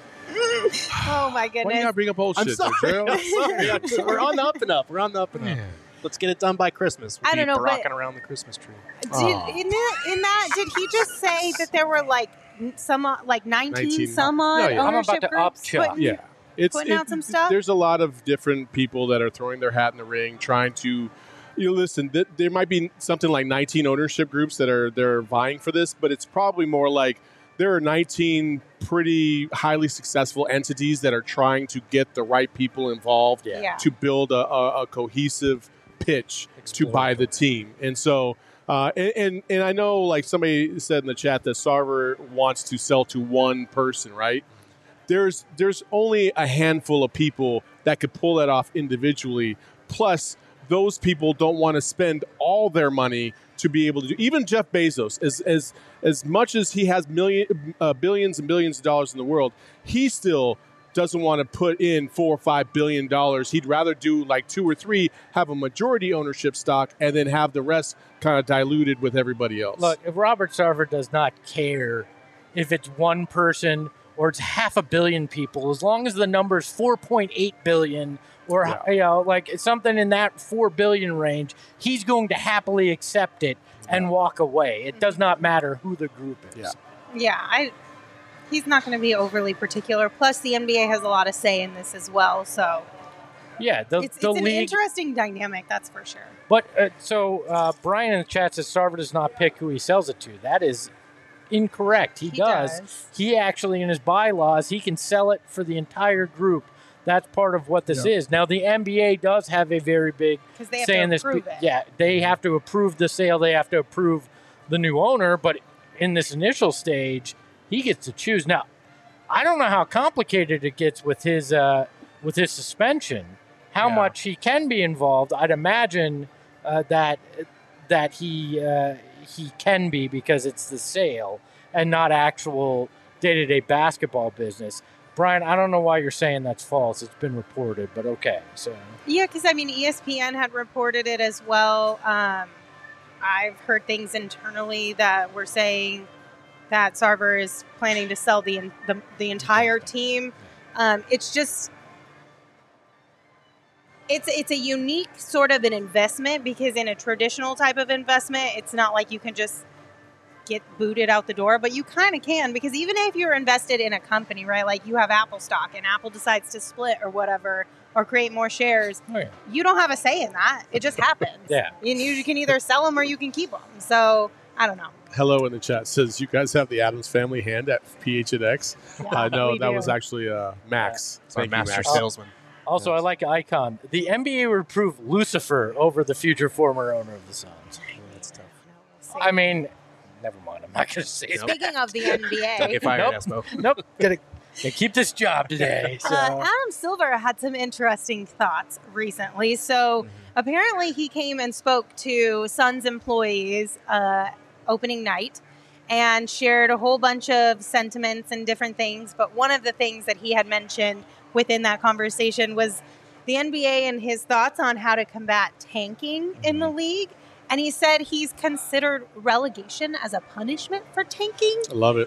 Oh my Why do you goodness. not bring up old I'm shit, sorry. Joe? I'm sorry. I'm sorry. We're on the up and up. We're on the up and up. Let's get it done by Christmas. We'll I don't be know, but- rocking around the Christmas tree. Did, Aw. in, that, in that, did he just say that there were like n- some uh, like nineteen, nineteen some odd No, yeah. I'm ownership about to up groups? Chuck. putting- Yeah. It's, Putting out some stuff? There's a lot of different people that are throwing their hat in the ring, trying to, you know, listen, th- there might be something like nineteen ownership groups that are they're vying for this, but it's probably more like there are nineteen pretty highly successful entities that are trying to get the right people involved Yeah. Yeah. to build a, a, a cohesive pitch to buy the team. And so, uh, and, and and I know, like somebody said in the chat, that Sarver wants to sell to one person, right? There's there's only a handful of people that could pull that off individually. Plus, those people don't want to spend all their money to be able to do. Even Jeff Bezos, as as as much as he has million uh, billions and billions of dollars in the world, he still doesn't want to put in four or five billion dollars. He'd rather do like two or three, have a majority ownership stock, and then have the rest kind of diluted with everybody else. Look, if Robert Sarver does not care if it's one person or it's half a billion people, as long as the number is four point eight billion or Yeah. you know, like something in that four billion range, he's going to happily accept it and walk away. It does not matter who the group is. Yeah. Yeah, I. He's not going to be overly particular. Plus, the N B A has a lot of say in this as well. So Yeah, the, it's, the it's an league. interesting dynamic, that's for sure. But uh, so uh, Brian in the chat says Sarver does not pick who he sells it to. That is incorrect. He, He does. does. He actually, in his bylaws, he can sell it for the entire group. That's part of what this is. Now, the N B A does have a very big Because they have say to in this. approve it. Yeah, they have to approve the sale. They have to approve the new owner. But in this initial stage, he gets to choose. Now, I don't know how complicated it gets with his uh, with his suspension. How Yeah. much he can be involved? I'd imagine uh, that that he uh, he can be because it's the sale and not actual day to day basketball business. Brian, I don't know why you're saying that's false. It's been reported, but okay. So Yeah, because I mean, E S P N had reported it as well. Um, I've heard things internally that were saying that Sarver is planning to sell the the, the entire team. Um, it's just it's it's a unique sort of an investment because in a traditional type of investment, it's not like you can just get booted out the door, but you kind of can because even if you're invested in a company, right, like you have Apple stock and Apple decides to split or whatever or create more shares, oh, yeah. you don't have a say in that. It just happens. Yeah. And you can either sell them or you can keep them. So I don't know. Hello in the chat says you guys have the Adams Family hand at P H N X. Yeah, uh, no, we that do. was actually uh, Max. It's our Thank you, master Max. salesman. Also, Yes. I like Icon. The N B A would prove Lucifer over the future former owner of the Suns. That's tough. I mean, never mind. I'm not going to say it. Speaking of the N B Don't get A, fired, Nope. Espo. Nope. Gonna, gonna keep this job today. So. uh, Adam Silver had some interesting thoughts recently. So apparently he came and spoke to Suns employees uh, opening night and shared a whole bunch of sentiments and different things. But one of the things that he had mentioned within that conversation was the N B A and his thoughts on how to combat tanking in the league. And he said he's considered relegation as a punishment for tanking. I love it.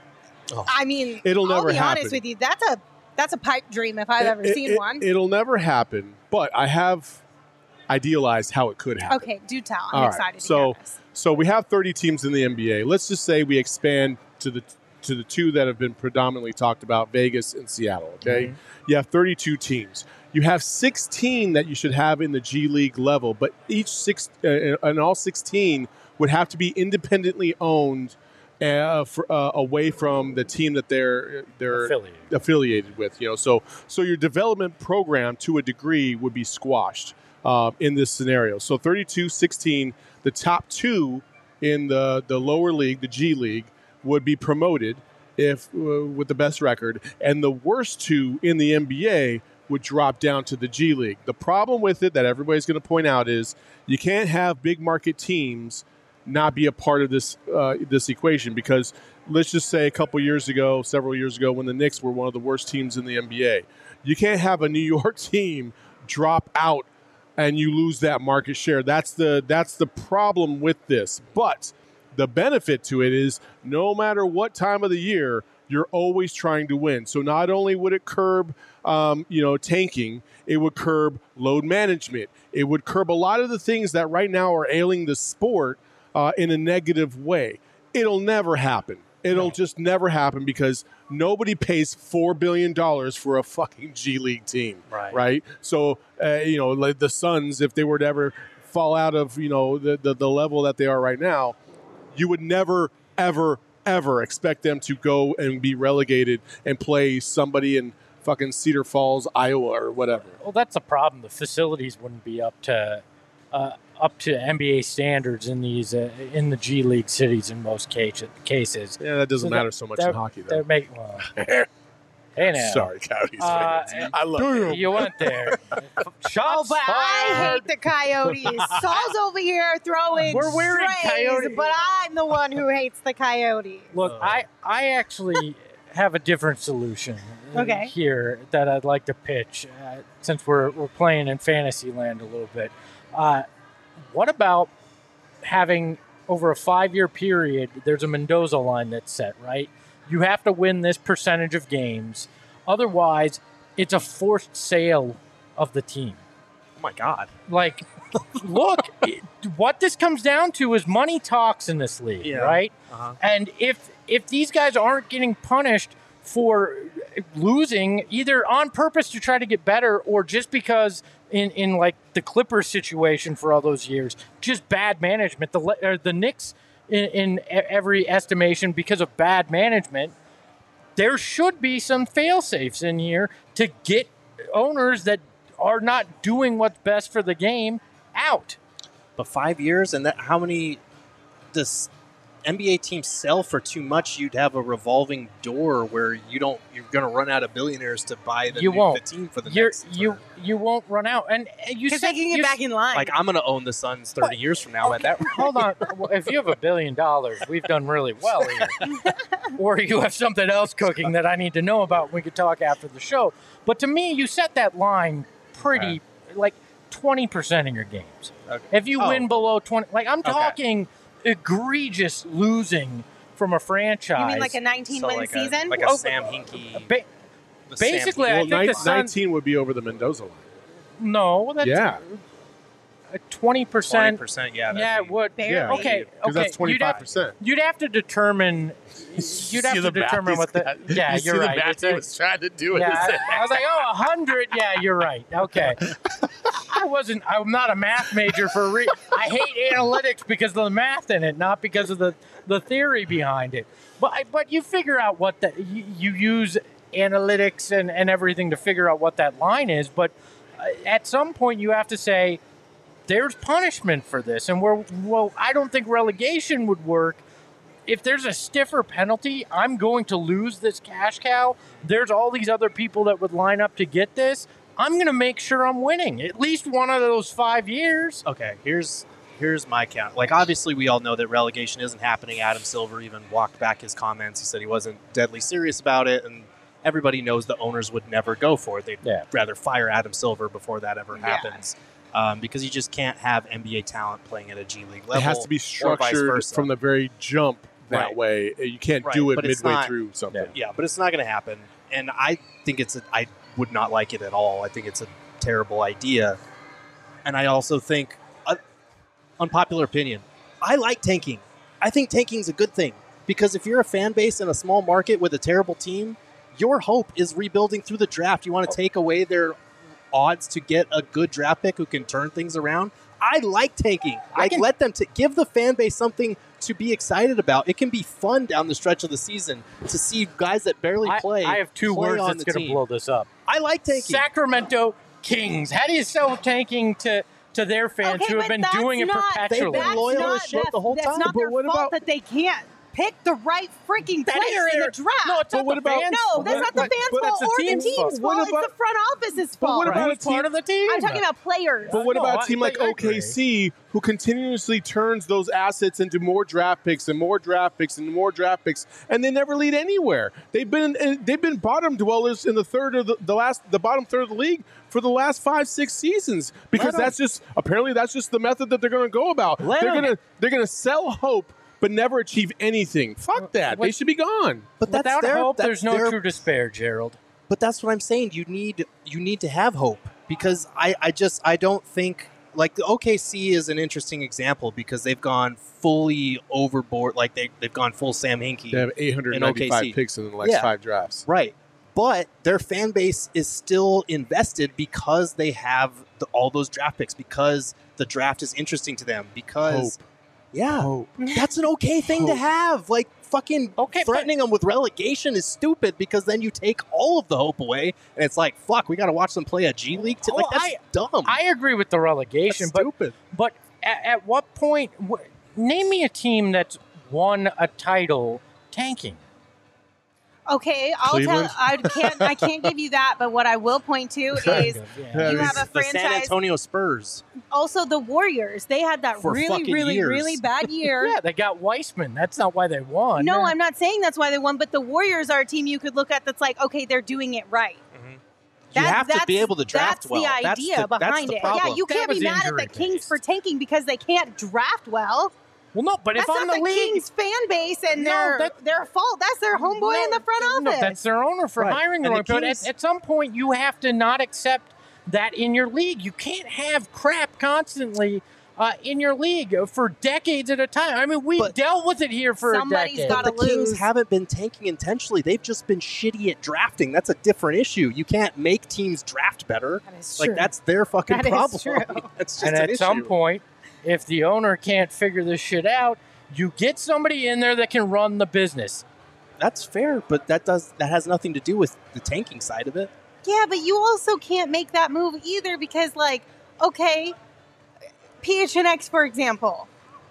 I mean, It'll I'll never be happen. honest with you. That's a that's a pipe dream if I've ever It- seen it- one. It'll never happen, but I have idealized how it could happen. Okay, do tell. I'm All right, excited to so- hear this. So we have thirty teams in the N B A. Let's just say we expand to the to the two that have been predominantly talked about, Vegas and Seattle. Okay, Mhm. you have thirty-two teams. You have sixteen that you should have in the G League level, but each six uh, and all sixteen would have to be independently owned uh, for, uh, away from the team that they're they're Affiliated. affiliated with. You know, so so your development program to a degree would be squashed uh, in this scenario. So thirty-two, sixteen, the top two in the the lower league, the G League, would be promoted if uh, with the best record, and the worst two in the N B A would drop down to the G League. The problem with it that everybody's going to point out is you can't have big market teams not be a part of this uh, this equation because let's just say a couple years ago, several years ago, when the Knicks were one of the worst teams in the N B A, you can't have a New York team drop out and you lose that market share. That's the that's the problem with this. But the benefit to it is no matter what time of the year, you're always trying to win. So not only would it curb, um, you know, tanking, it would curb load management. It would curb a lot of the things that right now are ailing the sport uh, in a negative way. It'll never happen. It'll Right. just never happen because nobody pays four billion dollars for a fucking G League team, Right. right? So, uh, you know, like the Suns, if they were to ever fall out of, you know, the, the, the level that they are right now, you would never, ever, ever expect them to go and be relegated and play somebody in fucking Cedar Falls, Iowa, or whatever. Well, that's a problem. The facilities wouldn't be up to uh, up to N B A standards in these uh, in the G League cities in most case, cases. Yeah, that doesn't So matter that- so much that- in hockey, though. That make well. Hey now, Sorry, Coyotes Uh, fans. I love you. you went there. Oh, Shots but I fired. hate the Coyotes. Saul's over here throwing We're wearing strays, Coyote- but I'm the one who hates the Coyotes. Look, I I actually have a different solution uh, Okay. here that I'd like to pitch uh, since we're we're playing in fantasy land a little bit. Uh, what about having over a five year period? There's a Mendoza line that's set, right? You have to win this percentage of games, otherwise, it's a forced sale of the team. Oh my God. Like, look, it, what this comes down to is money talks in this league, Yeah. right? Uh-huh. And if if these guys aren't getting punished for losing, either on purpose to try to get better, or just because in, in like the Clippers situation for all those years, just bad management. The Le- or the Knicks, in, in e- every estimation, because of bad management, there should be some fail safes in here to get owners that are not doing what's best for the game out. But five years and that how many does N B A teams sell for too much, you'd have a revolving door where you don't you're going to run out of billionaires to buy the, You new, won't. the team for the You're, next you term. you won't run out, and uh, you Because said they can get you back in line. Like I'm going to own the Suns thirty years from now at that rate. Hold on. Well, if you have a billion dollars, we've done really well here. Or you have something else cooking that I need to know about. We could talk after the show. But to me, you set that line pretty, like twenty percent in your games. Okay. If you Oh. win below twenty, like I'm Okay. talking egregious losing from a franchise. You mean like a nineteen win like season? A, like a Oh, Sam Hinkie. ba- the Sam basically, Hinkie- I Well, think nine, the Suns- nineteen would be over the Mendoza line. no, that's Yeah. twenty twenty percent. percent, yeah. that'd Yeah, be- it would. Barely. Yeah. Okay, Because okay. that's twenty-five percent. You'd have, you'd have to determine. You'd have to determine what the. Yeah, you you're see right. the math It's he a- was trying to do it. Yeah, I, I was like, oh, a hundred. Yeah, you're right. Okay, I wasn't. I'm not a math major for a reason. I hate analytics because of the math in it, not because of the the theory behind it. But I- but you figure out what the you, you use analytics and and everything to figure out what that line is. But uh, at some point, you have to say there's punishment for this, and we're well. I don't think relegation would work. If there's a stiffer penalty, I'm going to lose this cash cow. There's all these other people that would line up to get this. I'm going to make sure I'm winning at least one of those five years. Okay, here's here's my count. Like, obviously, we all know that relegation isn't happening. Adam Silver even walked back his comments. He said he wasn't deadly serious about it, and everybody knows the owners would never go for it. They'd Yeah. rather fire Adam Silver before that ever Yeah. happens, um, because you just can't have N B A talent playing at a G League level. It has to be or vice structured versa. from the very jump that Right. way. You can't Right, do it but it's midway not- through something. Yeah, but it's not going to happen. And I think it's a, I would not like it at all. I think it's a terrible idea. And I also think, uh, unpopular opinion, I like tanking. I think tanking is a good thing because if you're a fan base in a small market with a terrible team, your hope is rebuilding through the draft. You want to take away their odds to get a good draft pick who can turn things around. I like tanking. I Like, can- let them t- give the fan base something to be excited about. It can be fun down the stretch of the season to see guys that barely I, play. I have two play words on that's the going to team. blow this up. I like tanking. Sacramento Kings. How do you sell tanking to, to their fans Okay, who have but been that's doing it not- perpetually? They've been That's loyal not, as shit that- the whole that's time. not But their what fault about- that they can't pick the right freaking That player is in their- the draft. No, it's But not what the about- fans' No, fault. that's not the But- fans' but fault that's the or the team's team's fault. fault. What It's about- the front office's But fault. what about He's a team- part of the team. I'm talking about players. But what No, about I- a team like, like I agree. O K C who continuously turns those assets into more draft picks and more draft picks and more draft picks, and they never lead anywhere? They've been they've been bottom dwellers in the third of the, the last the bottom third of the league for the last five six seasons because Let 'em. that's just apparently that's just the method that they're going to go about. Let they're 'em. going to they're going to sell hope but never achieve anything. Fuck that. What- They should be gone. But that's Without their, hope, that's there's no their- true despair, Gerald. But that's what I'm saying. You need you need to have hope because I, I just I don't think like the O K C is an interesting example because they've gone fully overboard. Like they they've gone full Sam Hinkie. They have eight hundred ninety-five O K C. picks in the next Yeah. five drafts. Right. But their fan base is still invested because they have the, all those draft picks, because the draft is interesting to them, because, Hope. yeah, Hope. that's an okay thing to Hope. have. Like, fucking Okay, but- threatening them with relegation is stupid because then you take all of the hope away, and it's like, fuck, we got to watch them play a G League. T- like, Well, that's dumb. I agree with the relegation, That's but stupid. but at, at what point? Wh- name me a team that's won a title tanking. Okay, I'll Cleveland? tell. I can't. I can't give you that. But what I will point to is Yeah. you have a the San franchise. Antonio Spurs. Also, the Warriors. They had that For really, fucking really, years. really bad year. Yeah, they got Weissman. That's not why they won. No, I'm not saying that's why they won. But the Warriors are a team you could look at that's like, okay, they're doing it right. You That- have to be that's- able to draft that's well. the That's idea the- that's behind the it. Yeah, problem. you That can't be was mad at the injury Kings based. for tanking because they can't draft well. Well, no, but if That's I'm not the the, league, Kings fan base and No, their that- their fault. That's their homeboy in the front office. No, that's their owner for Right. hiring the And wrong the But at, Kings- at some point, you have to not accept that in your league. You can't have crap constantly uh, in your league for decades at a time. I mean, we But- dealt with it here for Somebody's a decade. gotta But the Kings lose. haven't been tanking intentionally. They've just been shitty at drafting. That's a different issue. You can't make teams draft better. That is Like true. that's their fucking That is problem. true. That's just And an at issue. some point, if the owner can't figure this shit out, you get somebody in there that can run the business. That's fair, but that does that has nothing to do with the tanking side of it. Yeah, but you also can't make that move either because, like, okay, P H N X, for example,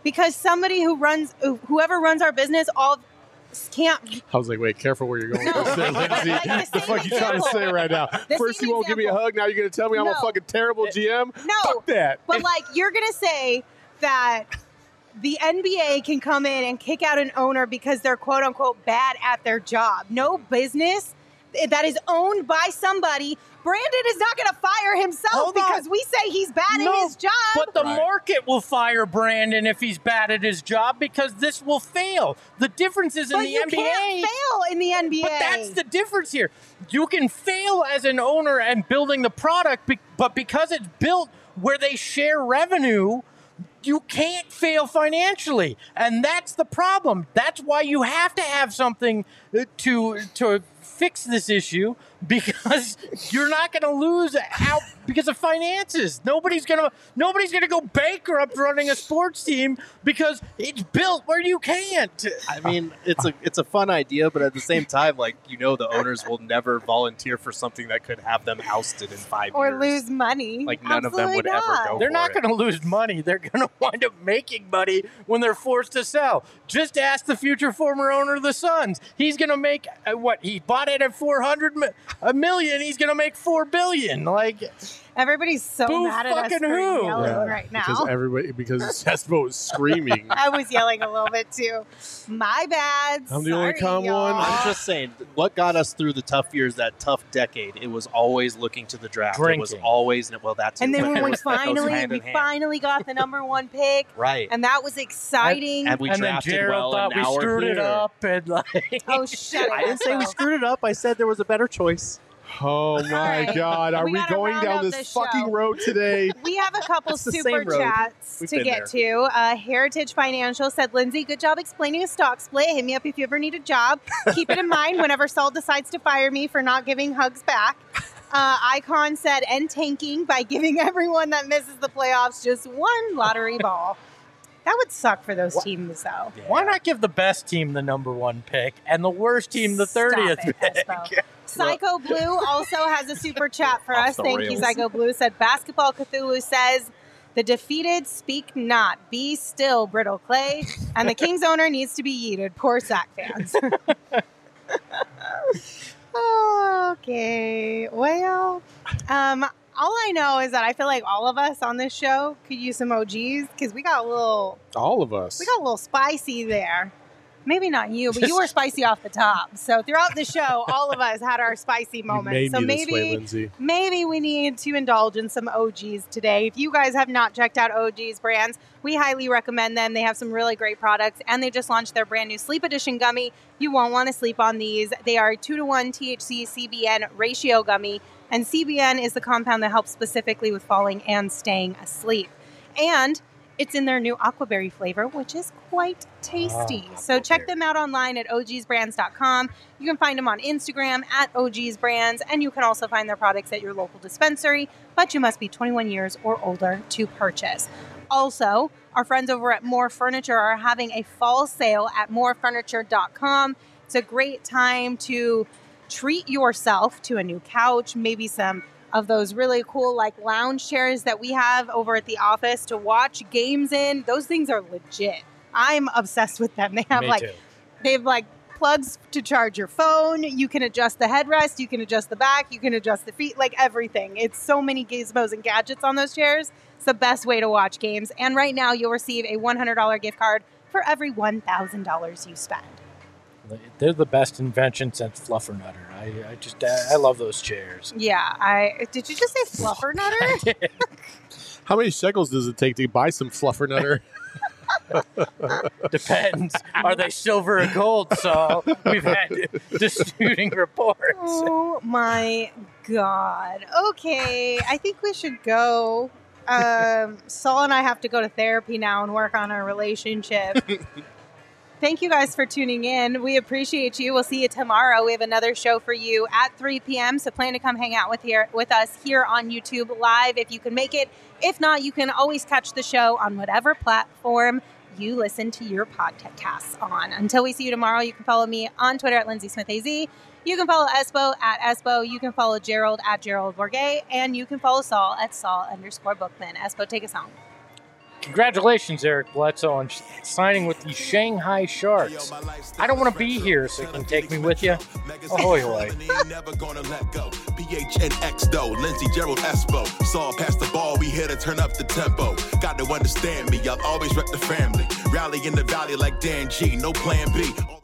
because somebody who runs, whoever runs our business, all can't. I was like, wait, careful where you're going with this, there, Lindsay. Like the the fuck same you trying to say right now? The First same you won't give me a example. hug, now you're going to tell me I'm a No. fucking terrible G M? No. Fuck that. But like, you're gonna say that the N B A can come in and kick out an owner because they're quote unquote bad at their job. No business that is owned by somebody. Brandon is not going to fire himself Hold on. because we say he's bad No, at his job. But the Right. market will fire Brandon if he's bad at his job because this will fail. The difference is in But the you N B A. can't fail in the N B A. But that's the difference here. You can fail as an owner and building the product, be- but because it's built where they share revenue, you can't fail financially. And that's the problem. That's why you have to have something uh, to to fix this issue, because you're not going to lose out because of finances. Nobody's going to nobody's going to go bankrupt running a sports team because it's built where you can't. I mean, it's a it's a fun idea, but at the same time, like, you know, the owners will never volunteer for something that could have them ousted in five or years. lose money. Like, none of them would Absolutely ever not. go They're for not it. going to lose money. They're going to wind up making money when they're forced to sell. Just ask the future former owner of the Suns. He's going to make uh, what he bought it at four hundred mi- a million. He's going to make four billion. Like, Everybody's so Boo mad at us fucking for who? yelling Yeah, right now. Because everybody, because Cespo was screaming. I was yelling a little bit too. My bad. I'm the only Sorry, calm y'all. one. I'm just saying, what got us through the tough years, that tough decade, it was always looking to the draft. It was Drinking. always, well, that's And then when we that goes finally, hand we in hand. finally got the number one pick, right. and that was exciting. And we and then drafted Gerald well, thought and now we we're screwed it here. up. And like, oh, shut it. I didn't say we Espo. screwed it up. I said there was a better choice. Oh my right. God. Are We we, gotta going round down out this this fucking show. road today? We have a couple It's the super same road. chats We've to been get to. Uh, Heritage Financial said, Lindsay, good job explaining a stock split. Hit me up if you ever need a job. Keep it in mind whenever Saul decides to fire me for not giving hugs back. Uh, Icon said, end tanking by giving everyone that misses the playoffs just one lottery ball. That would suck for those teams, though. why not give the best team the number one pick and the worst team the Stop thirtieth it, pick? Espo. Psycho Blue also has a super chat for Off us. the Thank you, rails. Psycho Blue. Said Basketball Cthulhu says, the defeated speak not. Be still, Brittle Clay. And the Kings owner needs to be yeeted. Poor Sac fans. Okay. Well, um, all I know is that I feel like all of us on this show could use some O Gs because we got a little All of us. we got a little spicy there. Maybe not you, but you were spicy off the top. So throughout the show, all of us had our spicy You moments. made so me maybe this way, Lindsay. maybe we need to indulge in some O Gs today. If you guys have not checked out O Gs brands, we highly recommend them. They have some really great products, and they just launched their brand new Sleep Edition gummy. You won't want to sleep on these. They are two to one T H C C B N ratio gummy, and C B N is the compound that helps specifically with falling and staying asleep. And it's in their new aquaberry flavor, which is quite tasty. Oh, so check aquaberry. them out online at O Gs brands dot com. You can find them on Instagram at O Gs Brands, and you can also find their products at your local dispensary, but you must be twenty-one years or older to purchase. Also, our friends over at More Furniture are having a fall sale at more furniture dot com. It's a great time to treat yourself to a new couch, maybe some of those really cool like lounge chairs that we have over at the office to watch games in. Those things are legit. I'm obsessed with them. They have Me like too. they have like plugs to charge your phone. You can adjust the headrest, you can adjust the back, you can adjust the feet, like everything. It's so many gizmos and gadgets on those chairs. It's the best way to watch games. And right now you'll receive a one hundred dollars gift card for every one thousand dollars you spend. They're the best invention since Fluffernutter. I, I just I love those chairs. Yeah, I did you just say fluffernutter? How many shekels does it take to buy some fluffernutter? Depends. Are they silver or gold? So we've had disputing reports. Oh my god. Okay, I think we should go. Um, Saul and I have to go to therapy now and work on our relationship. Thank you guys for tuning in. We appreciate you. We'll see you tomorrow. We have another show for you at three p.m. So plan to come hang out with here with us here on YouTube live if you can make it. If not, you can always catch the show on whatever platform you listen to your podcasts on. Until we see you tomorrow, you can follow me on Twitter at Lindsay Smith A Z. You can follow Espo at Espo. You can follow Gerald at Gerald Borgay. And you can follow Saul at Saul underscore Bookman. Espo, take us home. Congratulations, Eric Bledsoe, on sh- signing with the Shanghai Sharks. I don't want to be here, so you can take me with you. Ahoy, hoy. Never gonna let go. P H N X though, Lindsey, Gerald, Espo. Saw past the ball, we here to turn up the tempo. Got to understand me, I'll always rep the family. Rally in the valley like Dan G, no plan B.